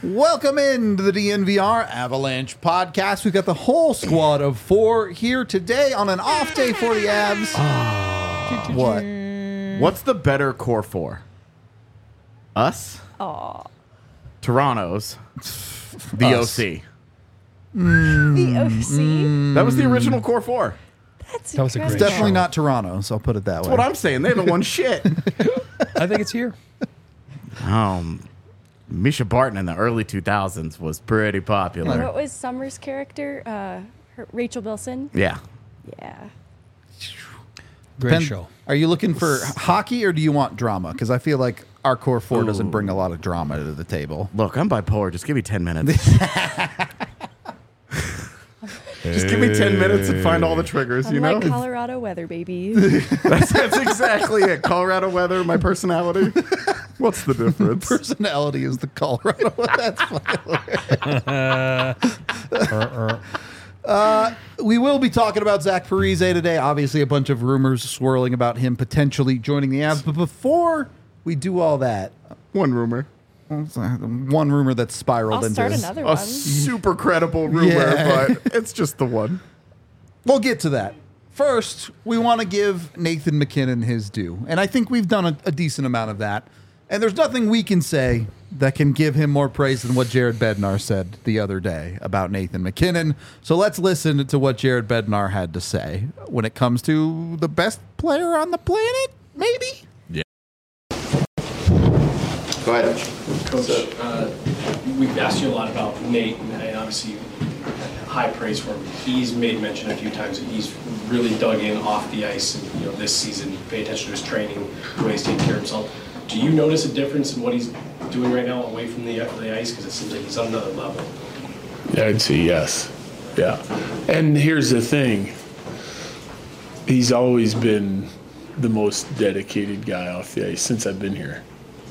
Welcome into the DNVR Avalanche podcast. We've got the whole squad of 4 here today on an off day for the Avs. What? What's the better core 4? Us? Toronto's. The Us. OC. The OC? That was the original core 4. That's That was a great It's incredible. definitely not Toronto, so I'll put it that way. That's what I'm saying. They haven't won shit. I think it's here. Misha Barton in the early 2000s was pretty popular. What was Summer's character? Rachel Bilson? Yeah. Yeah. Great show. Are you looking for hockey or do you want drama? Because I feel like our core 4 doesn't bring a lot of drama to the table. Look, I'm bipolar. Just give me 10 minutes. Just give me 10 minutes and find all the triggers, you know? Unlike Colorado weather, baby. That's exactly it. Colorado weather, my personality. What's the difference? Personality is the Colorado. That's funny. We will be talking about Zach Parise today. Obviously, a bunch of rumors swirling about him potentially joining the Avs. But before we do all that, One rumor. one rumor that spiraled I'll into start this. another A one. super credible rumor, Yeah. but it's just the one. We'll get to that. First, we want to give Nathan MacKinnon his due. And I think we've done a decent amount of that. And there's nothing we can say that can give him more praise than what Jared Bednar said the other day about Nathan MacKinnon. So let's listen to what Jared Bednar had to say when it comes to the best player on the planet, maybe? Go ahead. Coach, we've asked you a lot about Nate, and obviously high praise for him. He's made mention a few times that he's really dug in off the ice, and this season, pay attention to his training, the way he's taking care of himself. Do you notice a difference in what he's doing right now away from the ice? Because it seems like he's on another level. Yeah, I'd say yes. Yeah. And here's the thing. He's always been the most dedicated guy off the ice since I've been here.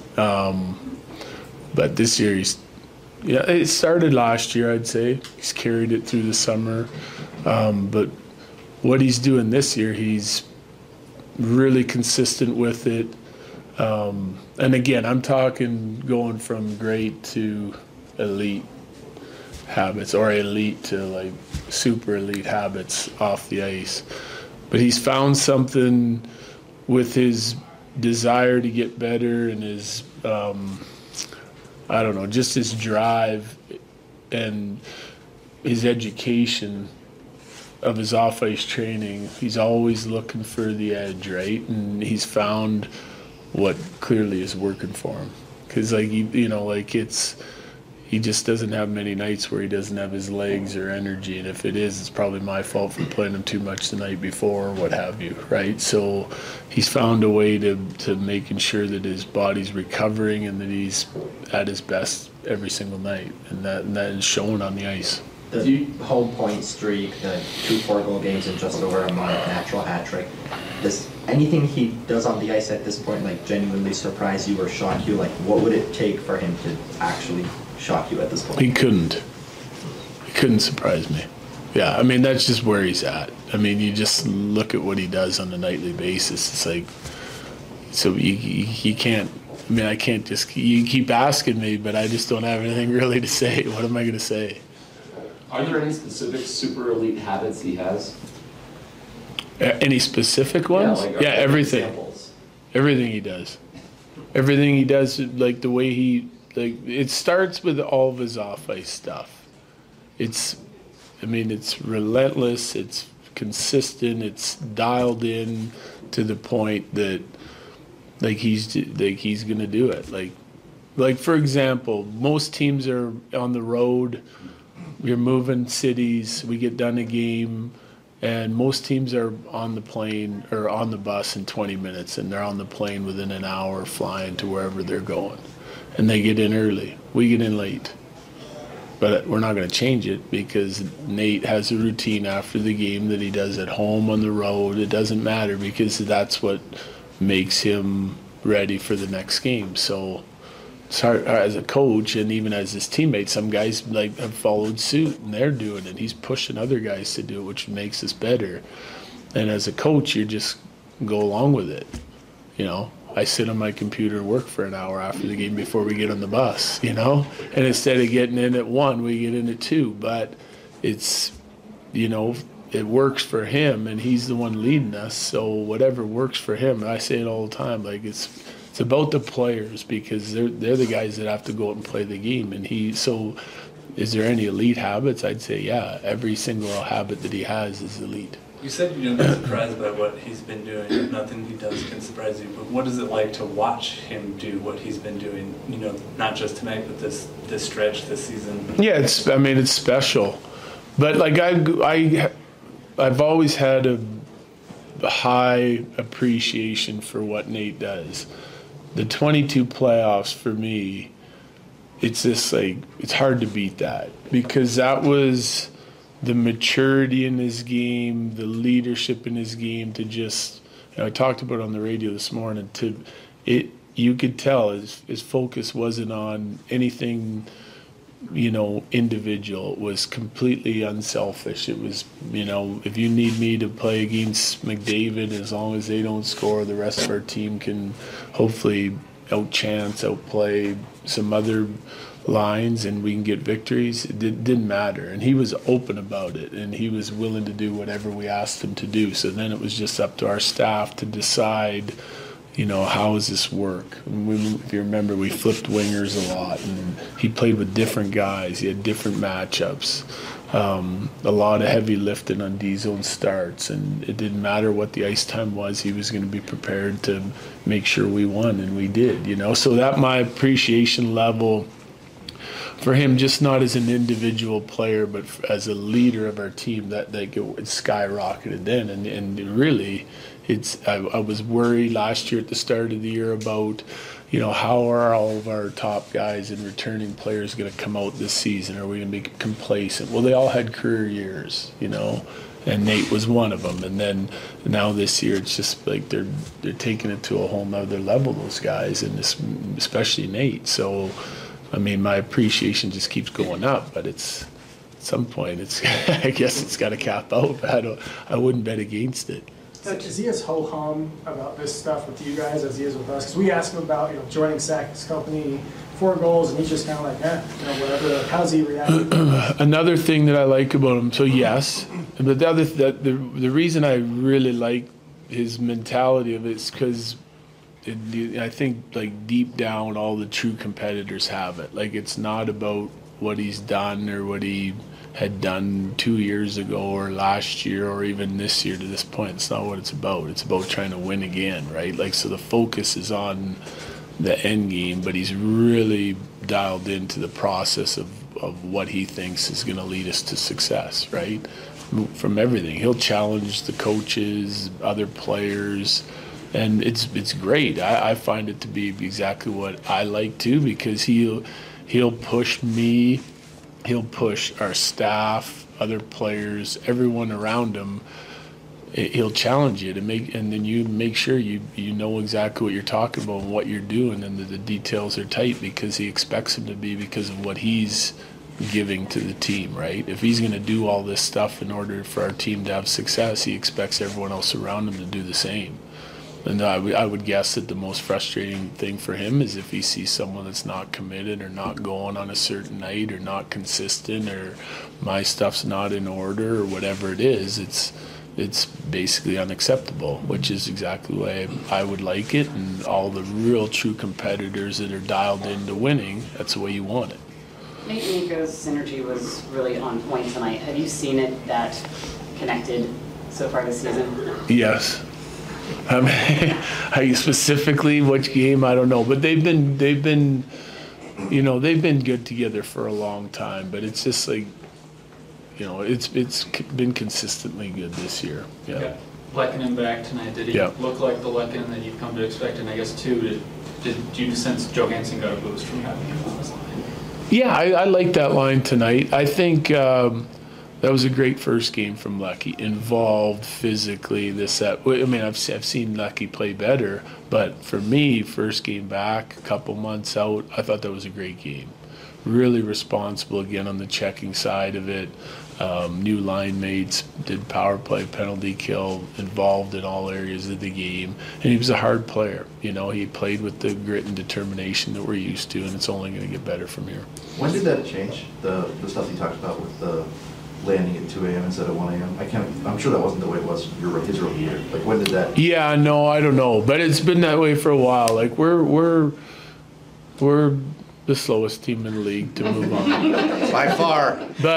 But this year it started last year, I'd say. He's carried it through the summer. But what he's doing this year, he's really consistent with it. And again, I'm talking going from great to elite habits, or elite to like super elite habits off the ice. But he's found something with his desire to get better and his, just his drive and his education of his off-ice training. He's always looking for the edge, right? And he's found what clearly is working for him. Because, he just doesn't have many nights where he doesn't have his legs or energy. And if it is, it's probably my fault for playing him too much the night before or what have you, right? So he's found a way to making sure that his body's recovering and that he's at his best every single night. And that is shown on the ice. The home point streak, the 2 4-goal games in just over a month, natural hat trick. Does anything he does on the ice at this point genuinely surprise you or shock you? What would it take for him to actually shock you at this point? He couldn't surprise me. Yeah, I mean, that's just where he's at. I mean, you just look at what he does on a nightly basis. It's like, so you can't, I can't just, you keep asking me, but I just don't have anything really to say. What am I going to say? Are there any specific super elite habits he has? Any specific ones? Yeah, everything. Examples. Everything he does. Everything he does, like the way he, it starts with all of his off-ice stuff. It's relentless, it's consistent, it's dialed in to the point that he's gonna do it. Like for example, most teams are on the road, we're moving cities, we get done a game, and most teams are on the plane or on the bus in 20 minutes, and they're on the plane within an hour flying to wherever they're going. And they get in early. We get in late. But we're not going to change it because Nate has a routine after the game that he does at home, on the road. It doesn't matter because that's what makes him ready for the next game. So as a coach and even as his teammates, some guys have followed suit and they're doing it. He's pushing other guys to do it, which makes us better. And as a coach, you just go along with it. I sit on my computer and work for an hour after the game before we get on the bus, you know? And instead of getting in at 1, we get in at 2. But it's, you know, it works for him, and he's the one leading us. So whatever works for him, and I say it all the time, like it's about the players, because they're the guys that have to go out and play the game. And so is there any elite habits? I'd say, yeah, every single habit that he has is elite. You said you don't get surprised by what he's been doing. Nothing he does can surprise you. But what is it like to watch him do what he's been doing? You know, not just tonight, but this stretch, this season. Yeah, it's special. But like I've always had a high appreciation for what Nate does. The 22 playoffs for me, it's just like, it's hard to beat that, because that was the maturity in his game, the leadership in his game to just, you know, I talked about it on the radio this morning, you could tell his focus wasn't on anything, you know, individual. It was completely unselfish. It was, you know, if you need me to play against McDavid, as long as they don't score, the rest of our team can hopefully outplay some other lines and we can get victories. It didn't matter. And he was open about it, and he was willing to do whatever we asked him to do. So then it was just up to our staff to decide, you know, how does this work? If you remember, we flipped wingers a lot, and he played with different guys. He had different matchups. A lot of heavy lifting on D-zone starts, and it didn't matter what the ice time was. He was going to be prepared to make sure we won, and we did, you know. So that my appreciation level for him, just not as an individual player, but as a leader of our team, that skyrocketed then. And really, I was worried last year at the start of the year about, you know, how are all of our top guys and returning players going to come out this season? Are we going to be complacent? Well, they all had career years, you know, and Nate was one of them. And then now this year, it's just like they're taking it to a whole nother level, those guys, and especially Nate. So, I mean, my appreciation just keeps going up, but at some point, I guess it's got to cap out. I wouldn't bet against it. Is he as ho-hum about this stuff with you guys as he is with us? Because we asked him about, you know, joining Sack's company, 4 goals, and he's just kind of like, you know, whatever. Like, how's he reacting? Another thing that I like about him, so yes, but the reason I really like his mentality of it is because I think, like, deep down, all the true competitors have it. Like, it's not about what he's done or what he had done 2 years ago or last year or even this year to this point. It's not what it's about. It's about trying to win again, right? Like, so the focus is on the end game, but he's really dialed into the process of what he thinks is going to lead us to success, right? From everything. He'll challenge the coaches, other players, and it's great. I find it to be exactly what I like too, because he'll push me, he'll push our staff, other players, everyone around him. He'll challenge you and then you make sure you know exactly what you're talking about and what you're doing, and the details are tight because he expects them to be, because of what he's giving to the team, right? If he's going to do all this stuff in order for our team to have success, he expects everyone else around him to do the same. And I would guess that the most frustrating thing for him is if he sees someone that's not committed or not going on a certain night or not consistent or my stuff's not in order or whatever it is, it's basically unacceptable, which is exactly the way I would like it. And all the real true competitors that are dialed into winning, that's the way you want it. Nate and Nico's synergy was really on point tonight. Have you seen it that connected so far this season? Yes. Specifically which game, I don't know, but they've been good together for a long time. But it's just like, you know, it's been consistently good this year. Yeah. Lehkonen back tonight. Did he look like the Lehkonen that you've come to expect? And I guess too, did you sense Johansson got a boost from having him on his line? Yeah, I like that line tonight. I think that was a great first game from Lucky. Involved physically, I've seen Lucky play better, but for me, first game back, a couple months out, I thought that was a great game. really responsible again on the checking side of it. New line mates, did power play, penalty kill, involved in all areas of the game. And he was a hard player. He played with the grit and determination that we're used to, and it's only going to get better from here. When did that change, the stuff you talked about with the landing at 2 a.m. instead of 1 a.m.? I'm sure that wasn't the way it was his rookie year. Like, when did that? Yeah, no, I don't know. But it's been that way for a while. Like, we're the slowest team in the league to move on. By far.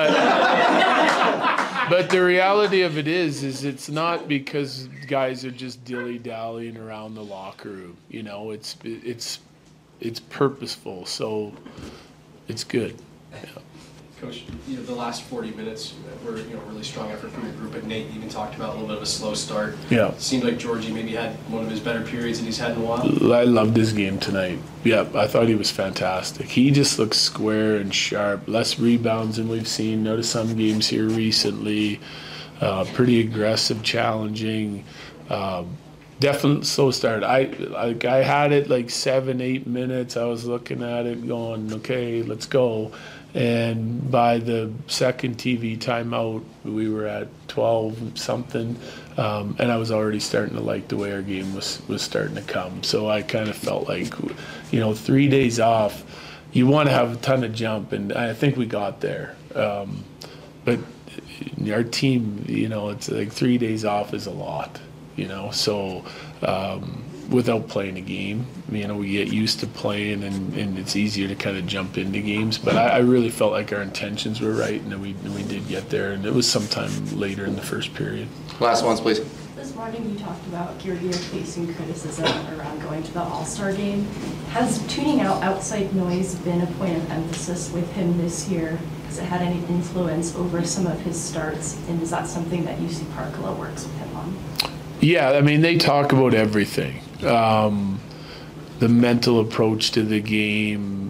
But the reality of it is it's not because guys are just dilly-dallying around the locker room. It's purposeful, so it's good. Yeah. Coach, the last 40 minutes were really strong effort from your group, but Nate even talked about a little bit of a slow start. Yeah. It seemed like Georgie maybe had one of his better periods that he's had in a while. I loved his game tonight. Yeah, I thought he was fantastic. He just looks square and sharp. Less rebounds than we've seen. Noticed some games here recently. Pretty aggressive, challenging. Definitely slow start. I had it like 7-8 minutes. I was looking at it going, okay, let's go. And by the second TV timeout, we were at 12 something, and I was already starting to like the way our game was starting to come. So I kind of felt like, 3 days off, you want to have a ton of jump, and I think we got there. But our team, it's like 3 days off is a lot, so without playing a game, we get used to playing, and it's easier to kind of jump into games. But I really felt like our intentions were right, and we did get there, and it was sometime later in the first period. Last ones, please. This morning you talked about your year facing criticism around going to the All-Star game. Has tuning out outside noise been a point of emphasis with him this year? Has it had any influence over some of his starts, and is that something that UC Parkville works with him on? Yeah, they talk about everything. The mental approach to the game,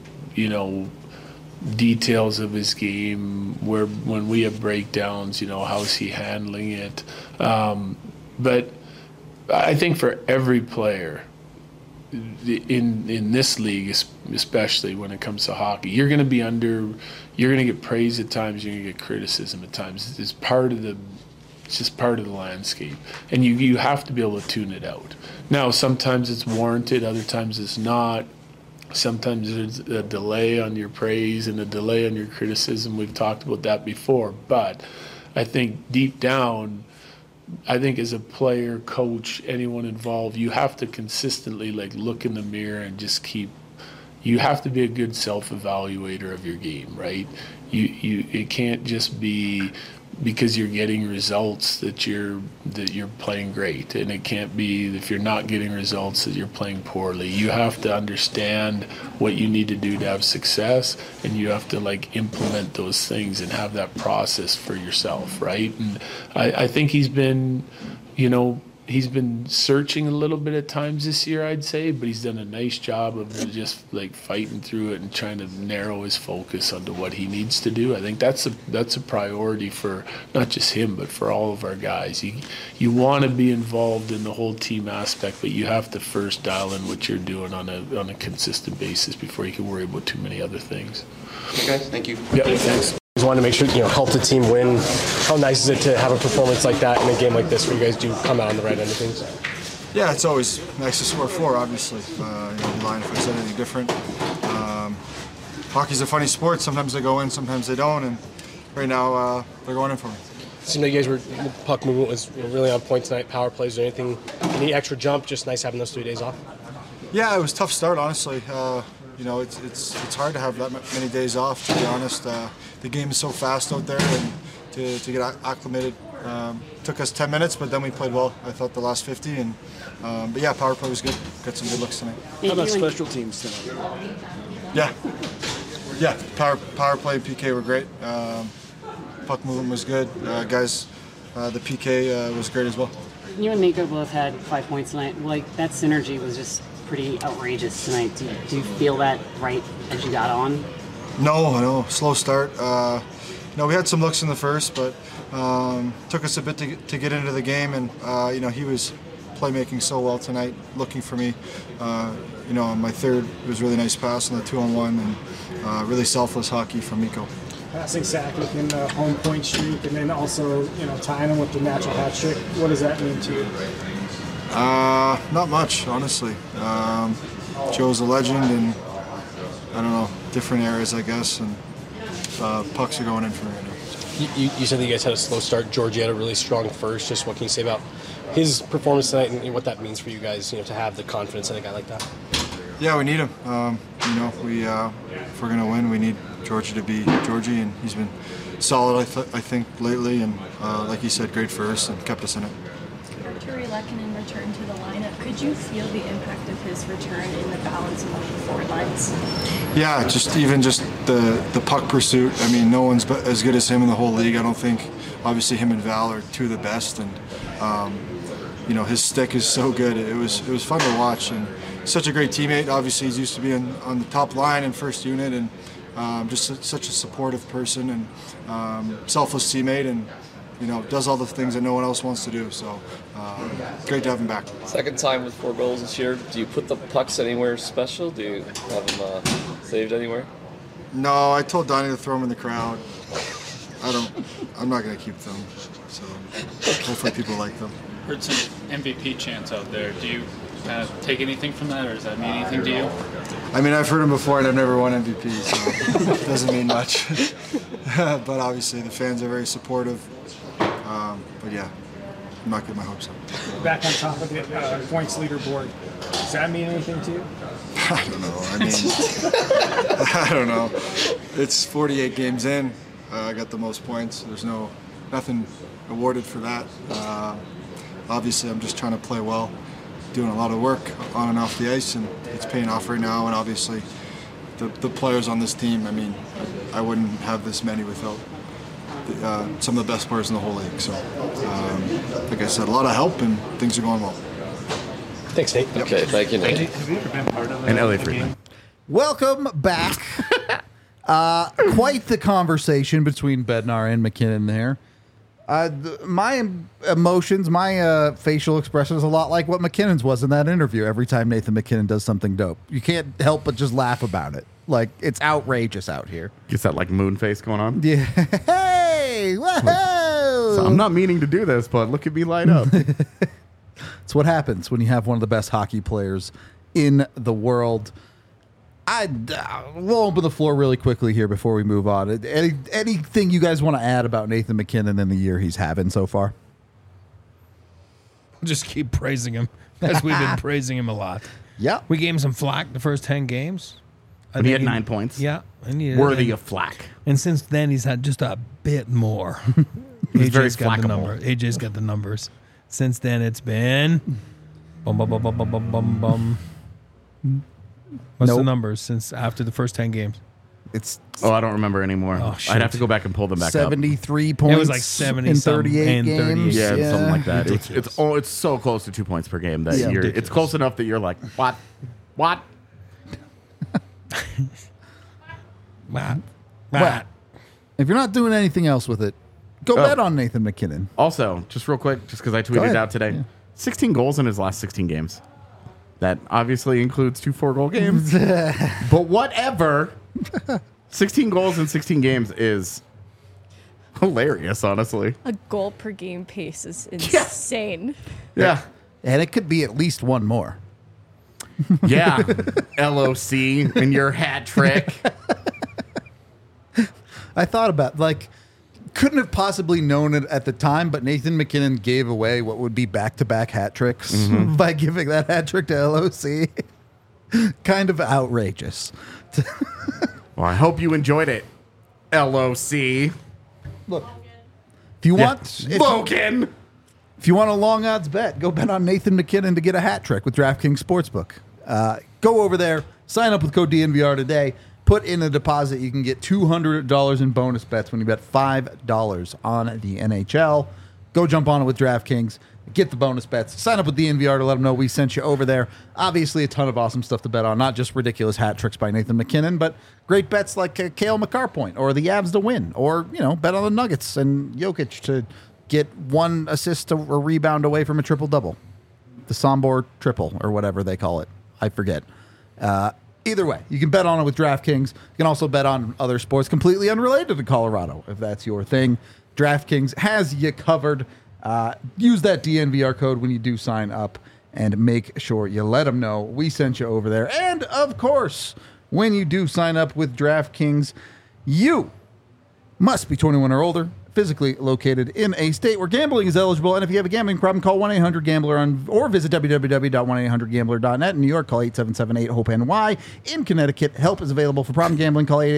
details of his game, when we have breakdowns, how's he handling it. But I think for every player in this league, especially when it comes to hockey, you're going to get praise at times, you're going to get criticism at times. It's just part of the landscape, and you have to be able to tune it out. Now, sometimes it's warranted, other times it's not. Sometimes there's a delay on your praise and a delay on your criticism. We've talked about that before, but I think deep down, as a player, coach, anyone involved, you have to consistently look in the mirror and just you have to be a good self-evaluator of your game, right? It can't just be because you're getting results that you're playing great, and it can't be if you're not getting results that you're playing poorly. You have to understand what you need to do to have success, and you have to implement those things and have that process for yourself, right? And I think he's been searching a little bit at times this year, I'd say, but he's done a nice job of just fighting through it and trying to narrow his focus onto what he needs to do. I think that's a priority for not just him, but for all of our guys. You want to be involved in the whole team aspect, but you have to first dial in what you're doing on a consistent basis before you can worry about too many other things. Okay, guys, thank you. Yeah, thanks. Just wanted to make sure, help the team win. How nice is it to have a performance like that in a game like this where you guys do come out on the right end of things? Yeah, it's always nice to score 4, obviously. Line if I said anything different. Hockey's a funny sport. Sometimes they go in, sometimes they don't, and right now they're going in for me. It seemed like you guys the puck movement was really on point tonight. Power plays or anything, any extra jump? Just nice having those 3 days off. Yeah, it was a tough start, honestly. It's hard to have that many days off, to be honest. The game is so fast out there, and to get acclimated took us 10 minutes, but then we played well. I thought the last 50, but yeah, power play was good. Got some good looks tonight. How about special teams tonight? Yeah, power play and PK were great. Puck movement was good. Guys, the PK was great as well. You and Nico both had 5 points tonight. That synergy was just pretty outrageous tonight. Do you feel that right as you got on? No, slow start. We had some looks in the first, but took us a bit to get into the game, and he was playmaking so well tonight, looking for me. On my third, it was really nice pass on the 2-on-1, and really selfless hockey from Mikko. Passing Sack within the home point streak, and then also, tying him with the natural hat trick. What does that mean to you? Not much, honestly. Joe's a legend, and I don't know, different areas, I guess, and pucks are going in for me right now. You said that you guys had a slow start. Georgie had a really strong first. Just what can you say about his performance tonight and what that means for you guys, to have the confidence in a guy like that? Yeah, we need him. If we're going to win, we need Georgie to be Georgie, and he's been solid, I think, lately, and like you said, great first and kept us in it. Artturi Lehkonen returned to the lineup. Could you feel the impact of his return in the balance of the forward lines? Yeah, just the puck pursuit. I mean, no one's as good as him in the whole league. I don't think. Obviously, him and Val are two of the best, and his stick is so good. It was fun to watch, and such a great teammate. Obviously, he's used to being on the top line and first unit, and just such a supportive person and selfless teammate, and does all the things that no one else wants to do. So great to have him back. Second time with 4 goals this year. Do you put the pucks anywhere special? Do you have them saved anywhere? No, I told Donnie to throw them in the crowd. I'm not going to keep them. So hopefully people like them. Heard some MVP chants out there. Do you take anything from that, or does that mean anything to you? I mean, I've heard them before, and I've never won MVP, so it doesn't mean much. But obviously, the fans are very supportive. But yeah, I'm not getting my hopes up. Back on top of the points leaderboard, does that mean anything to you? I don't know. I don't know. It's 48 games in. I got the most points. There's nothing awarded for that. Obviously, I'm just trying to play well, doing a lot of work on and off the ice, and it's paying off right now. And obviously, the players on this team, I mean, I wouldn't have this many without some of the best players in the whole league. So, like I said, a lot of help, and things are going well. Thanks, Nate. Yep. Okay, thank you, Nate. Have you ever been part of an LA Freeman? Welcome back. Quite the conversation between Bednar and McKinnon there. My emotions, my facial expression is a lot like what McKinnon's was in that interview. Every time Nathan McKinnon does something dope, you can't help but just laugh about it. Like, it's outrageous out here. Gets that like moon face going on. Yeah. Hey, whoa! So I'm not meaning to do this, but look at me light up. It's what happens when you have one of the best hockey players in the world. We'll open the floor really quickly here before we move on. Anything you guys want to add about Nathan McKinnon and the year he's having so far? Just keep praising him, as we've been praising him a lot. Yeah. We gave him some flack the first 10 games. But he had 9 points. Yeah. Worthy of flack. And since then, he's had just a bit more. He's very got the flackable. AJ's got the numbers. Since then, it's been... Bum, bum, bum, bum, bum, bum, bum, bum. What's the numbers since after the first 10 games? I don't remember anymore. Oh, I'd have to go back and pull them back 73 up. points. It was like 70 in something 38 and games. 38. Yeah, something like that. Ridiculous. It's so close to 2 points per game that Yeah. it's close enough that you're like, what? What? Well, if you're not doing anything else with it, go bet on Nathan McKinnon. Also, just real quick, just because I tweeted it out today, 16 goals in his last 16 games. That obviously includes 2 4-goal games. But whatever. 16 goals in 16 games is hilarious, honestly. A goal per game pace is insane. Yeah. And it could be at least one more. Yeah. LOC and your hat trick. I thought about, couldn't have possibly known it at the time, but Nathan McKinnon gave away what would be back-to-back hat tricks by giving that hat trick to LOC. Kind of outrageous. Well, I hope you enjoyed it, LOC. Look, if you want... Logan! If you want a long odds bet, go bet on Nathan McKinnon to get a hat trick with DraftKings Sportsbook. Go over there, sign up with code DNVR today, put in a deposit. You can get $200 in bonus bets when you bet $5 on the NHL. Go jump on it with DraftKings. Get the bonus bets. Sign up with DNVR to let them know we sent you over there. Obviously, a ton of awesome stuff to bet on. Not just ridiculous hat tricks by Nathan McKinnon, but great bets like Cale Makar point or the Avs to win, or bet on the Nuggets and Jokic to get 1 assist or rebound away from a triple-double. the Sombor triple or whatever they call it. I forget. Either way, you can bet on it with DraftKings. You can also bet on other sports completely unrelated to Colorado if that's your thing. DraftKings has you covered. Use that DNVR code when you do sign up and make sure you let them know we sent you over there. And, of course, when you do sign up with DraftKings, you must be 21 or older, physically located in a state where gambling is eligible. And if you have a gambling problem, call 1-800-GAMBLER or visit www.1800gambler.net. In New York, call 877-8-HOPE-NY. In Connecticut, help is available for problem gambling. Call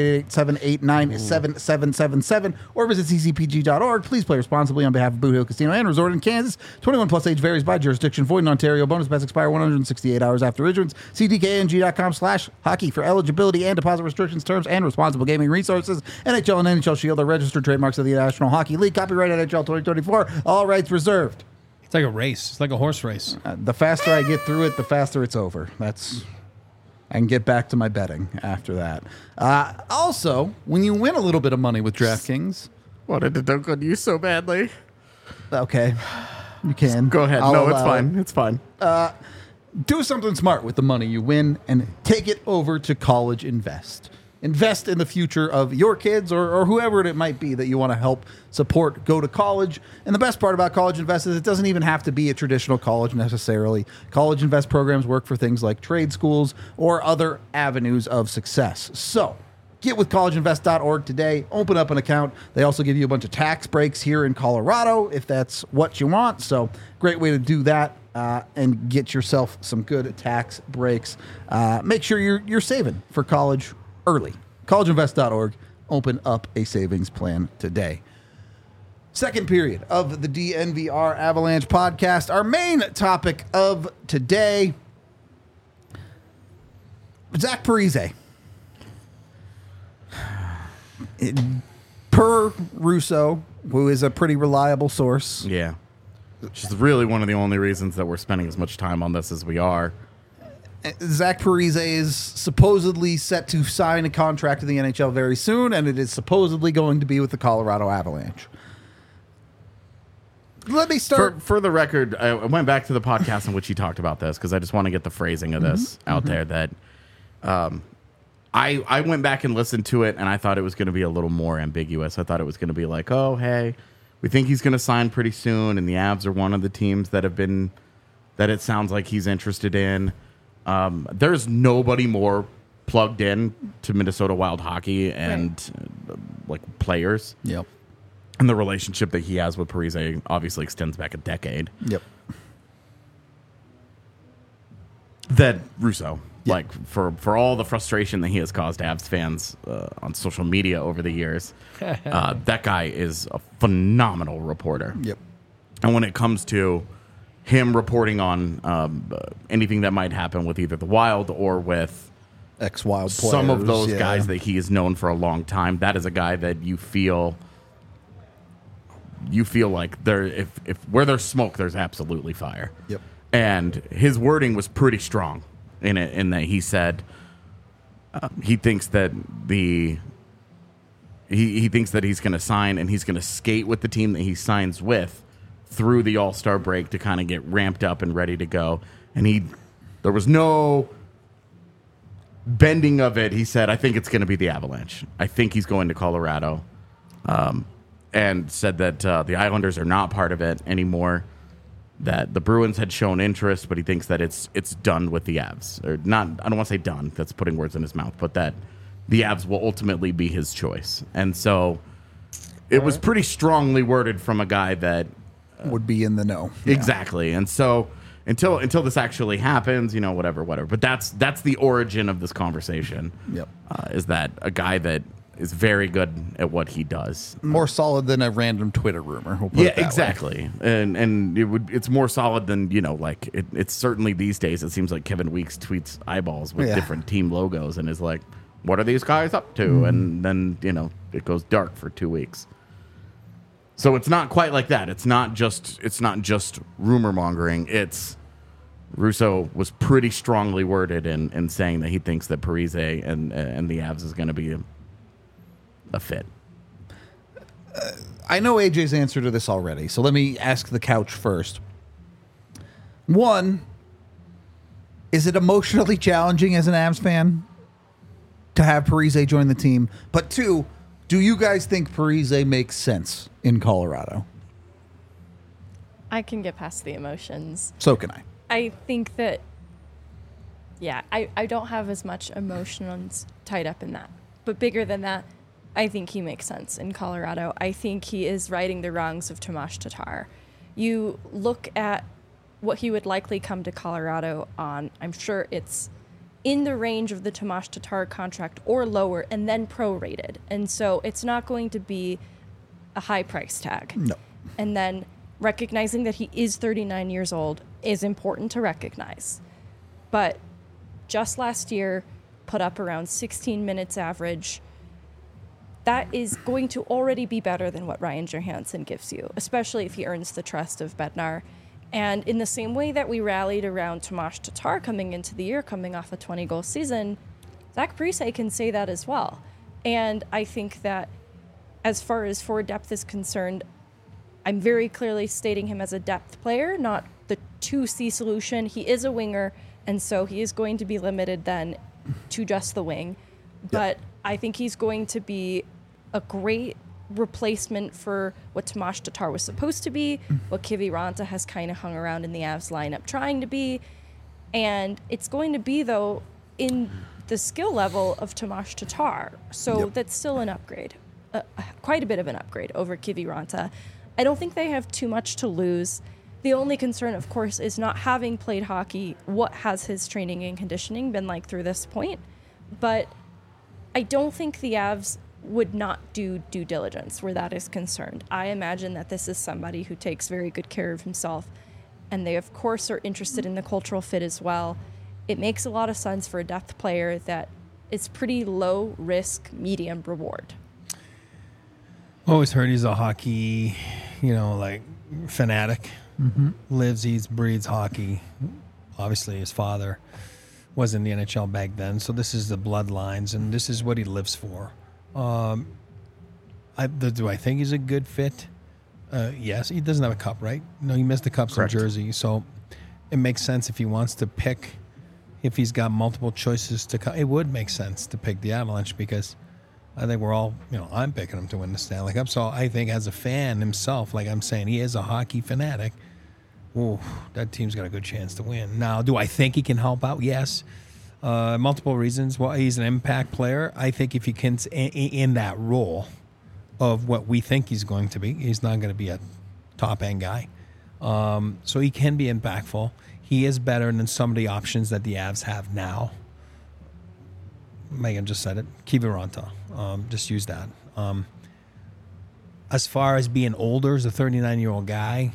888-789-7777 or visit ccpg.org. Please play responsibly on behalf of Boot Hill Casino and Resort in Kansas. 21 plus age varies by jurisdiction. Void in Ontario. Bonus bets expire 168 hours after issuance. See dkng.com/hockey for eligibility and deposit restrictions, terms, and responsible gaming resources. NHL and NHL Shield are registered trademarks of the National Hockey League. Copyright NHL 2024. All rights reserved. It's like a race. It's like a horse race. The faster I get through it, the faster it's over. I can get back to my betting after that. Also, when you win a little bit of money with DraftKings. Wanted to dunk on you so badly. Okay. You can. Go ahead. No, it's fine. It's fine. Do something smart with the money you win and take it over to College Invest. Invest in the future of your kids or whoever it might be that you want to help support go to college. And the best part about College Invest is it doesn't even have to be a traditional college necessarily. College Invest programs work for things like trade schools or other avenues of success. So get with collegeinvest.org today. Open up an account. They also give you a bunch of tax breaks here in Colorado if that's what you want. So great way to do that. And get yourself some good tax breaks. Make sure you're saving for college early. Collegeinvest.org. Open up a savings plan today. Second period of the DNVR Avalanche podcast. Our main topic of today, Zach Parise. Per Russo, who is a pretty reliable source. Yeah. Which is really one of the only reasons that we're spending as much time on this as we are. Zach Parise is supposedly set to sign a contract in the NHL very soon, and it is supposedly going to be with the Colorado Avalanche. Let me start. For the record, I went back to the podcast in which he talked about this because I just want to get the phrasing of this out there. That I went back and listened to it, and I thought it was going to be a little more ambiguous. I thought it was going to be like, oh, hey, we think he's going to sign pretty soon, and the Avs are one of the teams that it sounds like he's interested in. There's nobody more plugged in to Minnesota Wild hockey and like players. Yep. And the relationship that he has with Parise obviously extends back a decade. Yep. That Russo, like for all the frustration that he has caused Avs fans on social media over the years, that guy is a phenomenal reporter. Yep. And when it comes to him reporting on anything that might happen with either the Wild or with ex-Wild players, some of those guys that he has known for a long time, that is a guy that you feel like if where there's smoke, there's absolutely fire. Yep. And his wording was pretty strong in it, in that he said he thinks that he thinks that he's going to sign and he's going to skate with the team that he signs with through the All-Star break to kind of get ramped up and ready to go. And there was no bending of it. He said, I think it's going to be the Avalanche. I think he's going to Colorado. And said that the Islanders are not part of it anymore, that the Bruins had shown interest, but he thinks that it's done with the Avs. Or not, I don't want to say done, that's putting words in his mouth, but that the Avs will ultimately be his choice. And so it was pretty strongly worded from a guy that would be in the know. Exactly. And so until this actually happens, whatever. But that's the origin of this conversation. Yep. Is that a guy that is very good at what he does. More solid than a random Twitter rumor. We'll put it that exactly. way. And it's more solid than, like it's certainly these days it seems like Kevin Weeks tweets eyeballs with different team logos and is like, what are these guys up to? And then, it goes dark for 2 weeks. So it's not quite like that. It's not just rumor mongering. It's Russo was pretty strongly worded in saying that he thinks that Parise and the Avs is going to be a fit. I know AJ's answer to this already, so let me ask the couch first. One, is it emotionally challenging as an Avs fan to have Parise join the team? But two, do you guys think Parise makes sense in Colorado? I can get past the emotions. So can I. I think that, yeah, I don't have as much emotions tied up in that. But bigger than that, I think he makes sense in Colorado. I think he is righting the wrongs of Tomas Tatar. You look at what he would likely come to Colorado on, I'm sure it's in the range of the Tomas Tatar contract or lower and then prorated. And so it's not going to be a high price tag. No. And then recognizing that he is 39 years old is important to recognize. But just last year, put up around 16 minutes average. That is going to already be better than what Ryan Johansson gives you, especially if he earns the trust of Bednar. And in the same way that we rallied around Tomas Tatar coming into the year, coming off a 20-goal season, Zach Parise can say that as well. And I think that as far as forward depth is concerned, I'm very clearly stating him as a depth player, not the 2C solution. He is a winger, and so he is going to be limited then to just the wing. But I think he's going to be a great replacement for what Tomas Tatar was supposed to be, what Kiviranta has kind of hung around in the Avs lineup trying to be. And it's going to be, though, in the skill level of Tomas Tatar. So that's still an upgrade, quite a bit of an upgrade over Kiviranta. I don't think they have too much to lose. The only concern, of course, is not having played hockey. What has his training and conditioning been like through this point? But I don't think the Avs would not do due diligence where that is concerned. I imagine that this is somebody who takes very good care of himself, and they, of course, are interested in the cultural fit as well. It makes a lot of sense for a depth player that is pretty low risk, medium reward. Always heard he's a hockey, like fanatic. Mm-hmm. Lives, eats, breathes hockey. Obviously, his father was in the NHL back then, so this is the bloodlines, and this is what he lives for. Do I think he's a good fit? Yes. He doesn't have a cup, right? No, he missed the cups in Jersey, so it makes sense if he wants to pick. If he's got multiple choices to come, it would make sense to pick the Avalanche because I think we're all, I'm picking him to win the Stanley Cup. So I think as a fan himself, like I'm saying, he is a hockey fanatic. Ooh, that team's got a good chance to win. Now, do I think he can help out? Yes. Multiple reasons. Well, he's an impact player. I think if he can, in that role of what we think he's going to be, he's not going to be a top-end guy. So he can be impactful. He is better than some of the options that the Avs have now. Megan just said it. Kiviranta. Just use that. As far as being older as a 39-year-old guy,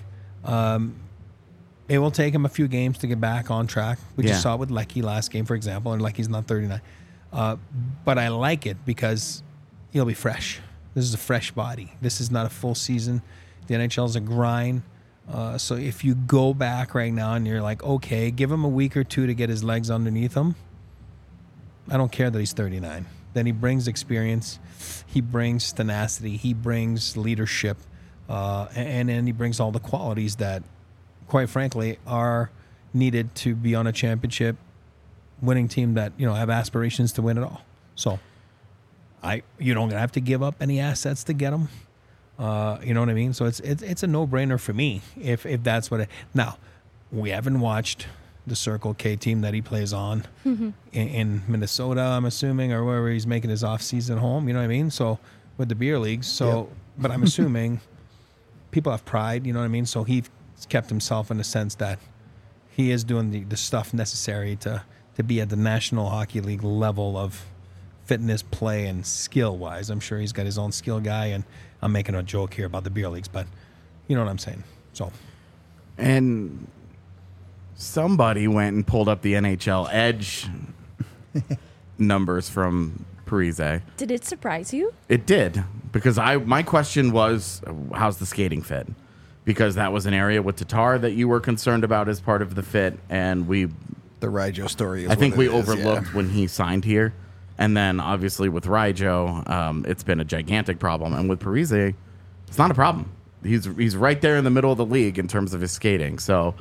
it will take him a few games to get back on track. We just saw it with Lecky last game, for example, and Lecky's not 39. But I like it because he'll be fresh. This is a fresh body. This is not a full season. The NHL is a grind. So if you go back right now and you're like, okay, give him a week or two to get his legs underneath him, I don't care that he's 39. Then he brings experience. He brings tenacity. He brings leadership. And then he brings all the qualities that, quite frankly, are needed to be on a championship winning team that, have aspirations to win it all. So you don't have to give up any assets to get them. You know what I mean? So it's a no-brainer for me if that's what now, we haven't watched the Circle K team that he plays on in Minnesota, I'm assuming, or wherever he's making his off-season home, you know what I mean? So with the beer leagues. So, but I'm assuming people have pride, you know what I mean? So he kept himself in the sense that he is doing the stuff necessary to be at the National Hockey League level of fitness, play, and skill-wise. I'm sure he's got his own skill guy, and I'm making a joke here about the beer leagues, but you know what I'm saying. So, and somebody went and pulled up the NHL Edge numbers from Parise. Did it surprise you? It did, because my question was, how's the skating fit? Because that was an area with Tatar that you were concerned about as part of the fit, and the Ryjo story. I think we overlooked when he signed here, and then obviously with Ryjo, it's been a gigantic problem, and with Parise, it's not a problem. He's right there in the middle of the league in terms of his skating. So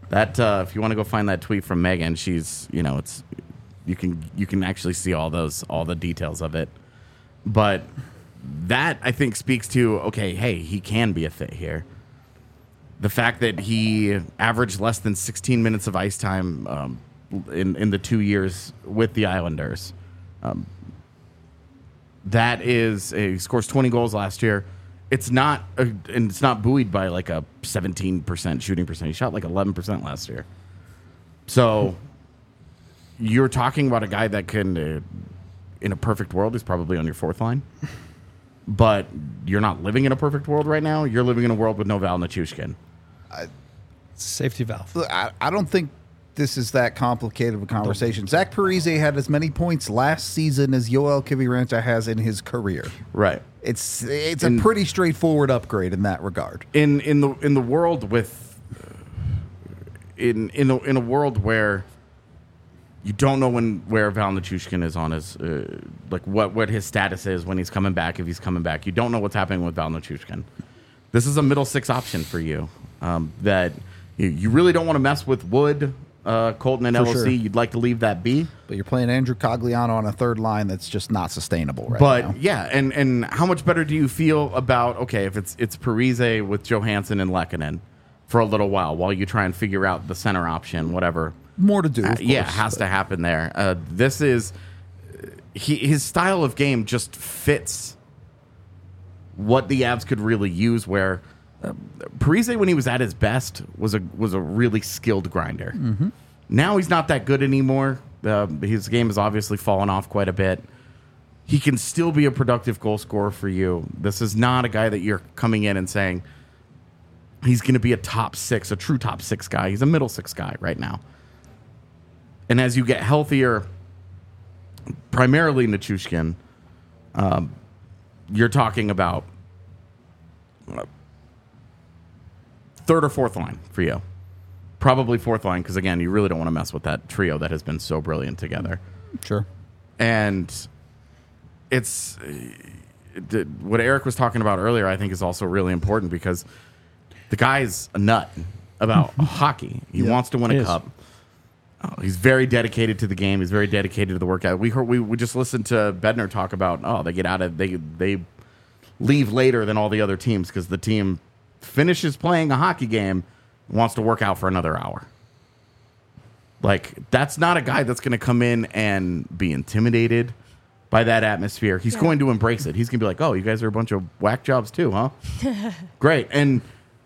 That if you want to go find that tweet from Megan, she's it's you can actually see all the details of it. But that I think speaks to hey, he can be a fit here. The fact that he averaged less than 16 minutes of ice time in the 2 years with the Islanders. That is, he scores 20 goals last year. It's not buoyed by like a 17% shooting percent. He shot like 11% last year. So you're talking about a guy that can, in a perfect world, is probably on your fourth line. But you're not living in a perfect world right now. You're living in a world with no Val Nichushkin. Safety valve. I don't think this is that complicated of a conversation. Zach Parise had as many points last season as Yoel Kiviranta has in his career. Right. It's a pretty straightforward upgrade in that regard. In the world with in a world where you don't know where Val Nichushkin is on his like what his status is when he's coming back, if he's coming back. You don't know what's happening with Val Nichushkin. This is a middle six option for you that you really don't want to mess with Wood, Colton, and LOC. Sure. You'd like to leave that be. But you're playing Andrew Cogliano on a third line that's just not sustainable right now. But yeah, and how much better do you feel about, if it's Parise with Johansson and Lehkonen for a little while you try and figure out the center option, whatever. More to do, of course, has to happen there. This is his style of game just fits what the Avs could really use, where Parise, when he was at his best, was a really skilled grinder. Mm-hmm. Now he's not that good anymore. His game has obviously fallen off quite a bit. He can still be a productive goal scorer for you. This is not a guy that you're coming in and saying he's going to be a top six, a true top six guy. He's a middle six guy right now. And as you get healthier, primarily Nichushkin, you're talking about third or fourth line for you. Probably fourth line, because, again, you really don't want to mess with that trio that has been so brilliant together. Sure. And it's what Eric was talking about earlier, I think, is also really important, because the guy's a nut about hockey. He wants to win a cup. He's very dedicated to the game. He's very dedicated to the workout. We just listened to Bednar talk about, they get out of they leave later than all the other teams because the team finishes playing a hockey game and wants to work out for another hour. Like, that's not a guy that's going to come in and be intimidated by that atmosphere. He's going to embrace it. He's going to be like, you guys are a bunch of whack jobs too, huh? Great. And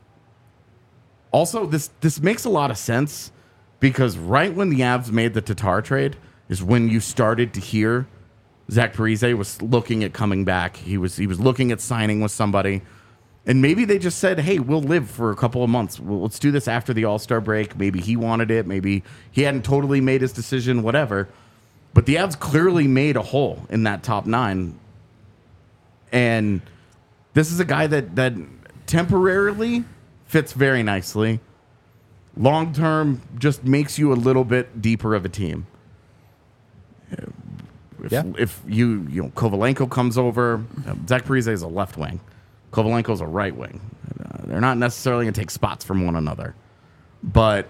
also, this makes a lot of sense, because right when the Avs made the Tatar trade is when you started to hear Zach Parise was looking at coming back. He was looking at signing with somebody. And maybe they just said, hey, we'll live for a couple of months. Let's do this after the All-Star break. Maybe he wanted it. Maybe he hadn't totally made his decision, whatever. But the Avs clearly made a hole in that top nine. And this is a guy that temporarily fits very nicely. Long term, just makes you a little bit deeper of a team. If Kovalenko comes over, Zach Parise is a left wing. Kovalenko's a right wing. They're not necessarily going to take spots from one another, but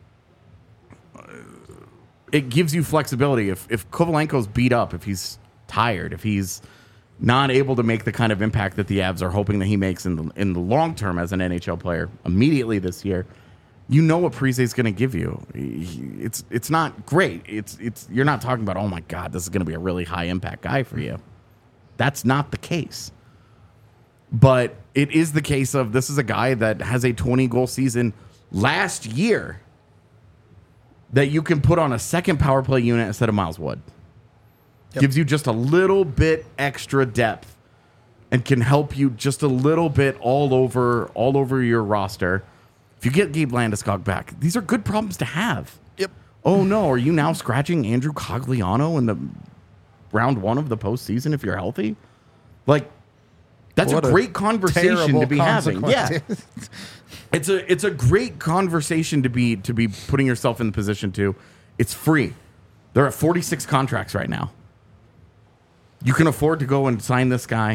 it gives you flexibility. If Kovalenko's beat up, if he's tired, if he's not able to make the kind of impact that the Avs are hoping that he makes in the long term as an NHL player immediately this year, you know what Parise is going to give you. It's not great. You're not talking about, oh my God, this is going to be a really high impact guy for you. That's not the case. But it is the case of, this is a guy that has a 20-goal season last year that you can put on a second power play unit instead of Miles Wood. Yep. Gives you just a little bit extra depth and can help you just a little bit all over your roster. If you get Gabe Landeskog back, these are good problems to have. Yep. Oh, no, are you now scratching Andrew Cogliano in the round one of the postseason if you're healthy? Like, that's a great conversation to be having. Yeah. It's a great conversation to be putting yourself in the position to. It's free. They're at 46 contracts right now. You can afford to go and sign this guy.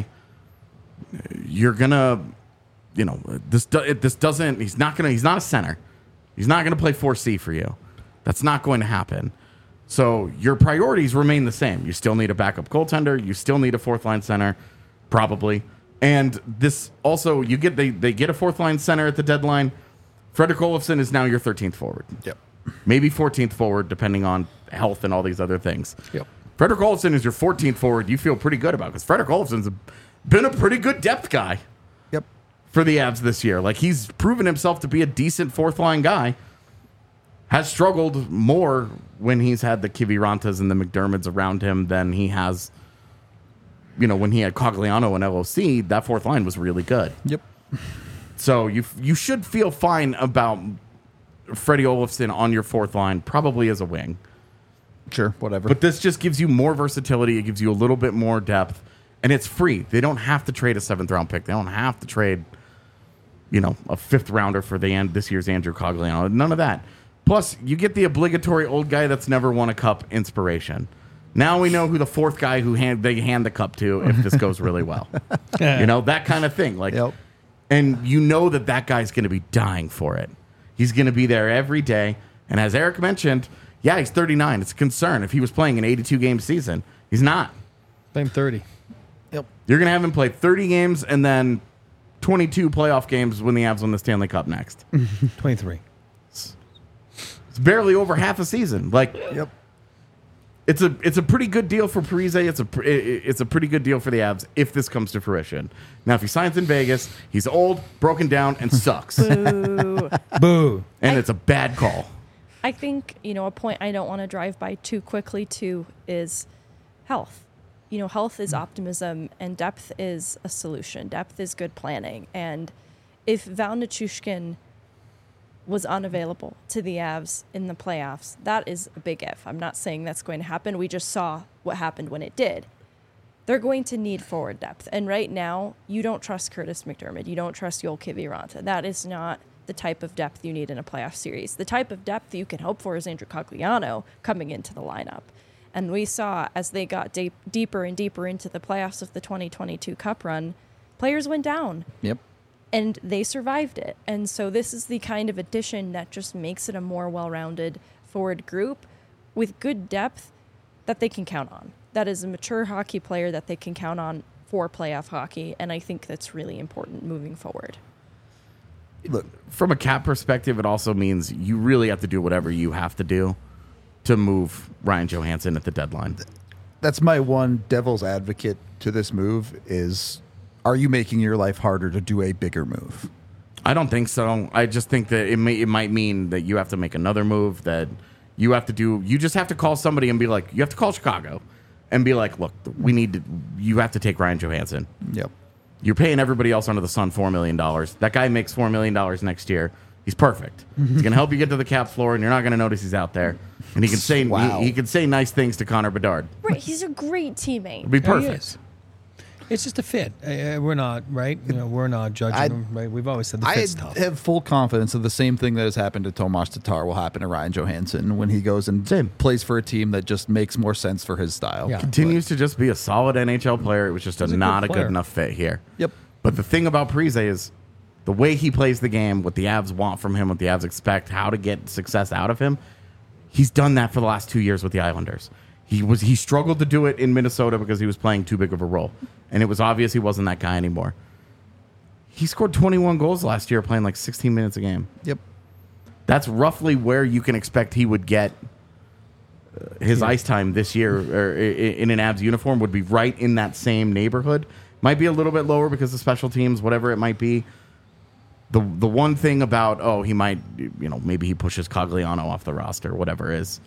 You're gonna, he's not a center. He's not going to play 4C for you. That's not going to happen. So your priorities remain the same. You still need a backup goaltender. You still need a fourth line center, probably. And this also, they get a fourth line center at the deadline. Fredrik Olofsson is now your 13th forward. Yep. Maybe 14th forward, depending on health and all these other things. Yep. Fredrik Olofsson is your 14th forward. You feel pretty good about, because Fredrik Olofsson's been a pretty good depth guy. Yep. For the Avs this year. Like, he's proven himself to be a decent fourth line guy. Has struggled more when he's had the Kivirantas and the McDermotts around him than he has, when he had Cogliano and LOC. That fourth line was really good. Yep. So you should feel fine about Freddie Olofsson on your fourth line, probably as a wing. Sure, whatever. But this just gives you more versatility. It gives you a little bit more depth, and it's free. They don't have to trade a 7th round pick. They don't have to trade, a 5th rounder for this year's Andrew Cogliano. None of that. Plus, you get the obligatory old guy that's never won a cup inspiration. Now we know who the fourth guy they hand the cup to if this goes really well. That kind of thing. And that guy's going to be dying for it. He's going to be there every day. And as Eric mentioned, yeah, he's 39. It's a concern. If he was playing an 82-game season, he's not. Same 30. Yep. You're going to have him play 30 games and then 22 playoff games when the Avs win the Stanley Cup next. 23. It's barely over half a season. Yep. It's a pretty good deal for Parise. It's a pretty good deal for the Avs if this comes to fruition. Now, if he signs in Vegas, he's old, broken down, and sucks. Boo. Boo. And it's a bad call. I think, a point I don't want to drive by too quickly, too, is health. Health is optimism, and depth is a solution. Depth is good planning. And if Val Nichushkin was unavailable to the Avs in the playoffs, that is a big if. I'm not saying that's going to happen. We just saw what happened when it did. They're going to need forward depth. And right now, you don't trust Curtis McDermott. You don't trust Joel Kiviranta. That is not the type of depth you need in a playoff series. The type of depth you can hope for is Andrew Cogliano coming into the lineup. And we saw as they got deeper and deeper into the playoffs of the 2022 Cup run, players went down. Yep. And they survived it. And so this is the kind of addition that just makes it a more well-rounded forward group with good depth that they can count on. That is a mature hockey player that they can count on for playoff hockey. And I think that's really important moving forward. Look, from a cap perspective, it also means you really have to do whatever you have to do to move Ryan Johansson at the deadline. That's my one devil's advocate to this move is, are you making your life harder to do a bigger move? I don't think so. I just think that it might mean that you have to make another move, that you have to do. You just have to call somebody and be like, you have to call Chicago and be like, look, you have to take Ryan Johansson. Yep. You're paying everybody else under the sun $4 million. That guy makes $4 million next year. He's perfect. He's going to help you get to the cap floor, and you're not going to notice he's out there. And he can say he can say nice things to Connor Bedard. Right, he's a great teammate. It'd be perfect. It's just a fit. We're not, right? We're not judging them, right? We've always said the fit's tough. I have full confidence that the same thing that has happened to Tomas Tatar will happen to Ryan Johansson when he goes and plays for a team that just makes more sense for his style. Yeah. Continues to just be a solid NHL player. It was just not a good enough fit here. Yep. But the thing about Parise is the way he plays the game, what the Avs want from him, what the Avs expect, how to get success out of him. He's done that for the last 2 years with the Islanders. He struggled to do it in Minnesota because he was playing too big of a role. And it was obvious he wasn't that guy anymore. He scored 21 goals last year playing like 16 minutes a game. Yep. That's roughly where you can expect he would get his ice time this year, or in an Avs uniform would be right in that same neighborhood. Might be a little bit lower because of special teams, whatever it might be. The one thing about, he might, maybe he pushes Cogliano off the roster, whatever is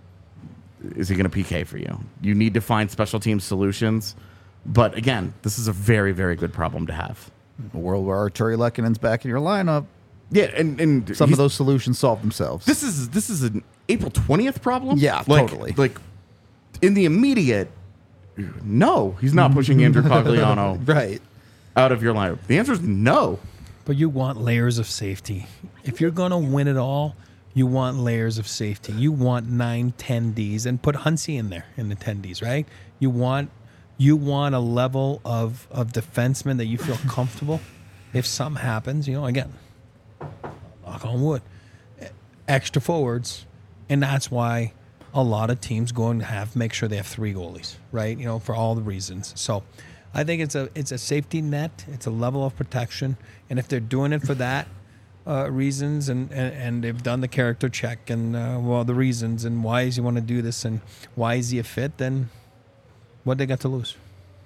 he going to PK for you? You need to find special team solutions. But again, this is a very, very good problem to have. A world where Arturi Lekkonen's back in your lineup. Yeah, and some of those solutions solve themselves. This is an April 20th problem? Yeah, totally. Like, in the immediate, no, he's not pushing Andrew Cogliano right out of your lineup. The answer is no. But you want layers of safety. If you're going to win it all, you want layers of safety. You want 9, 10 Ds, and put Huntsy in there in the 10 Ds, right? You want a level of defenseman that you feel comfortable. If something happens, again, knock on wood. extra forwards, and that's why a lot of teams go and make sure they have 3 goalies, right? You know, for all the reasons. So I think it's a safety net. It's a level of protection, and if they're doing it for that reasons, and they've done the character check and the reasons and why does he want to do this and why is he a fit, then what they got to lose?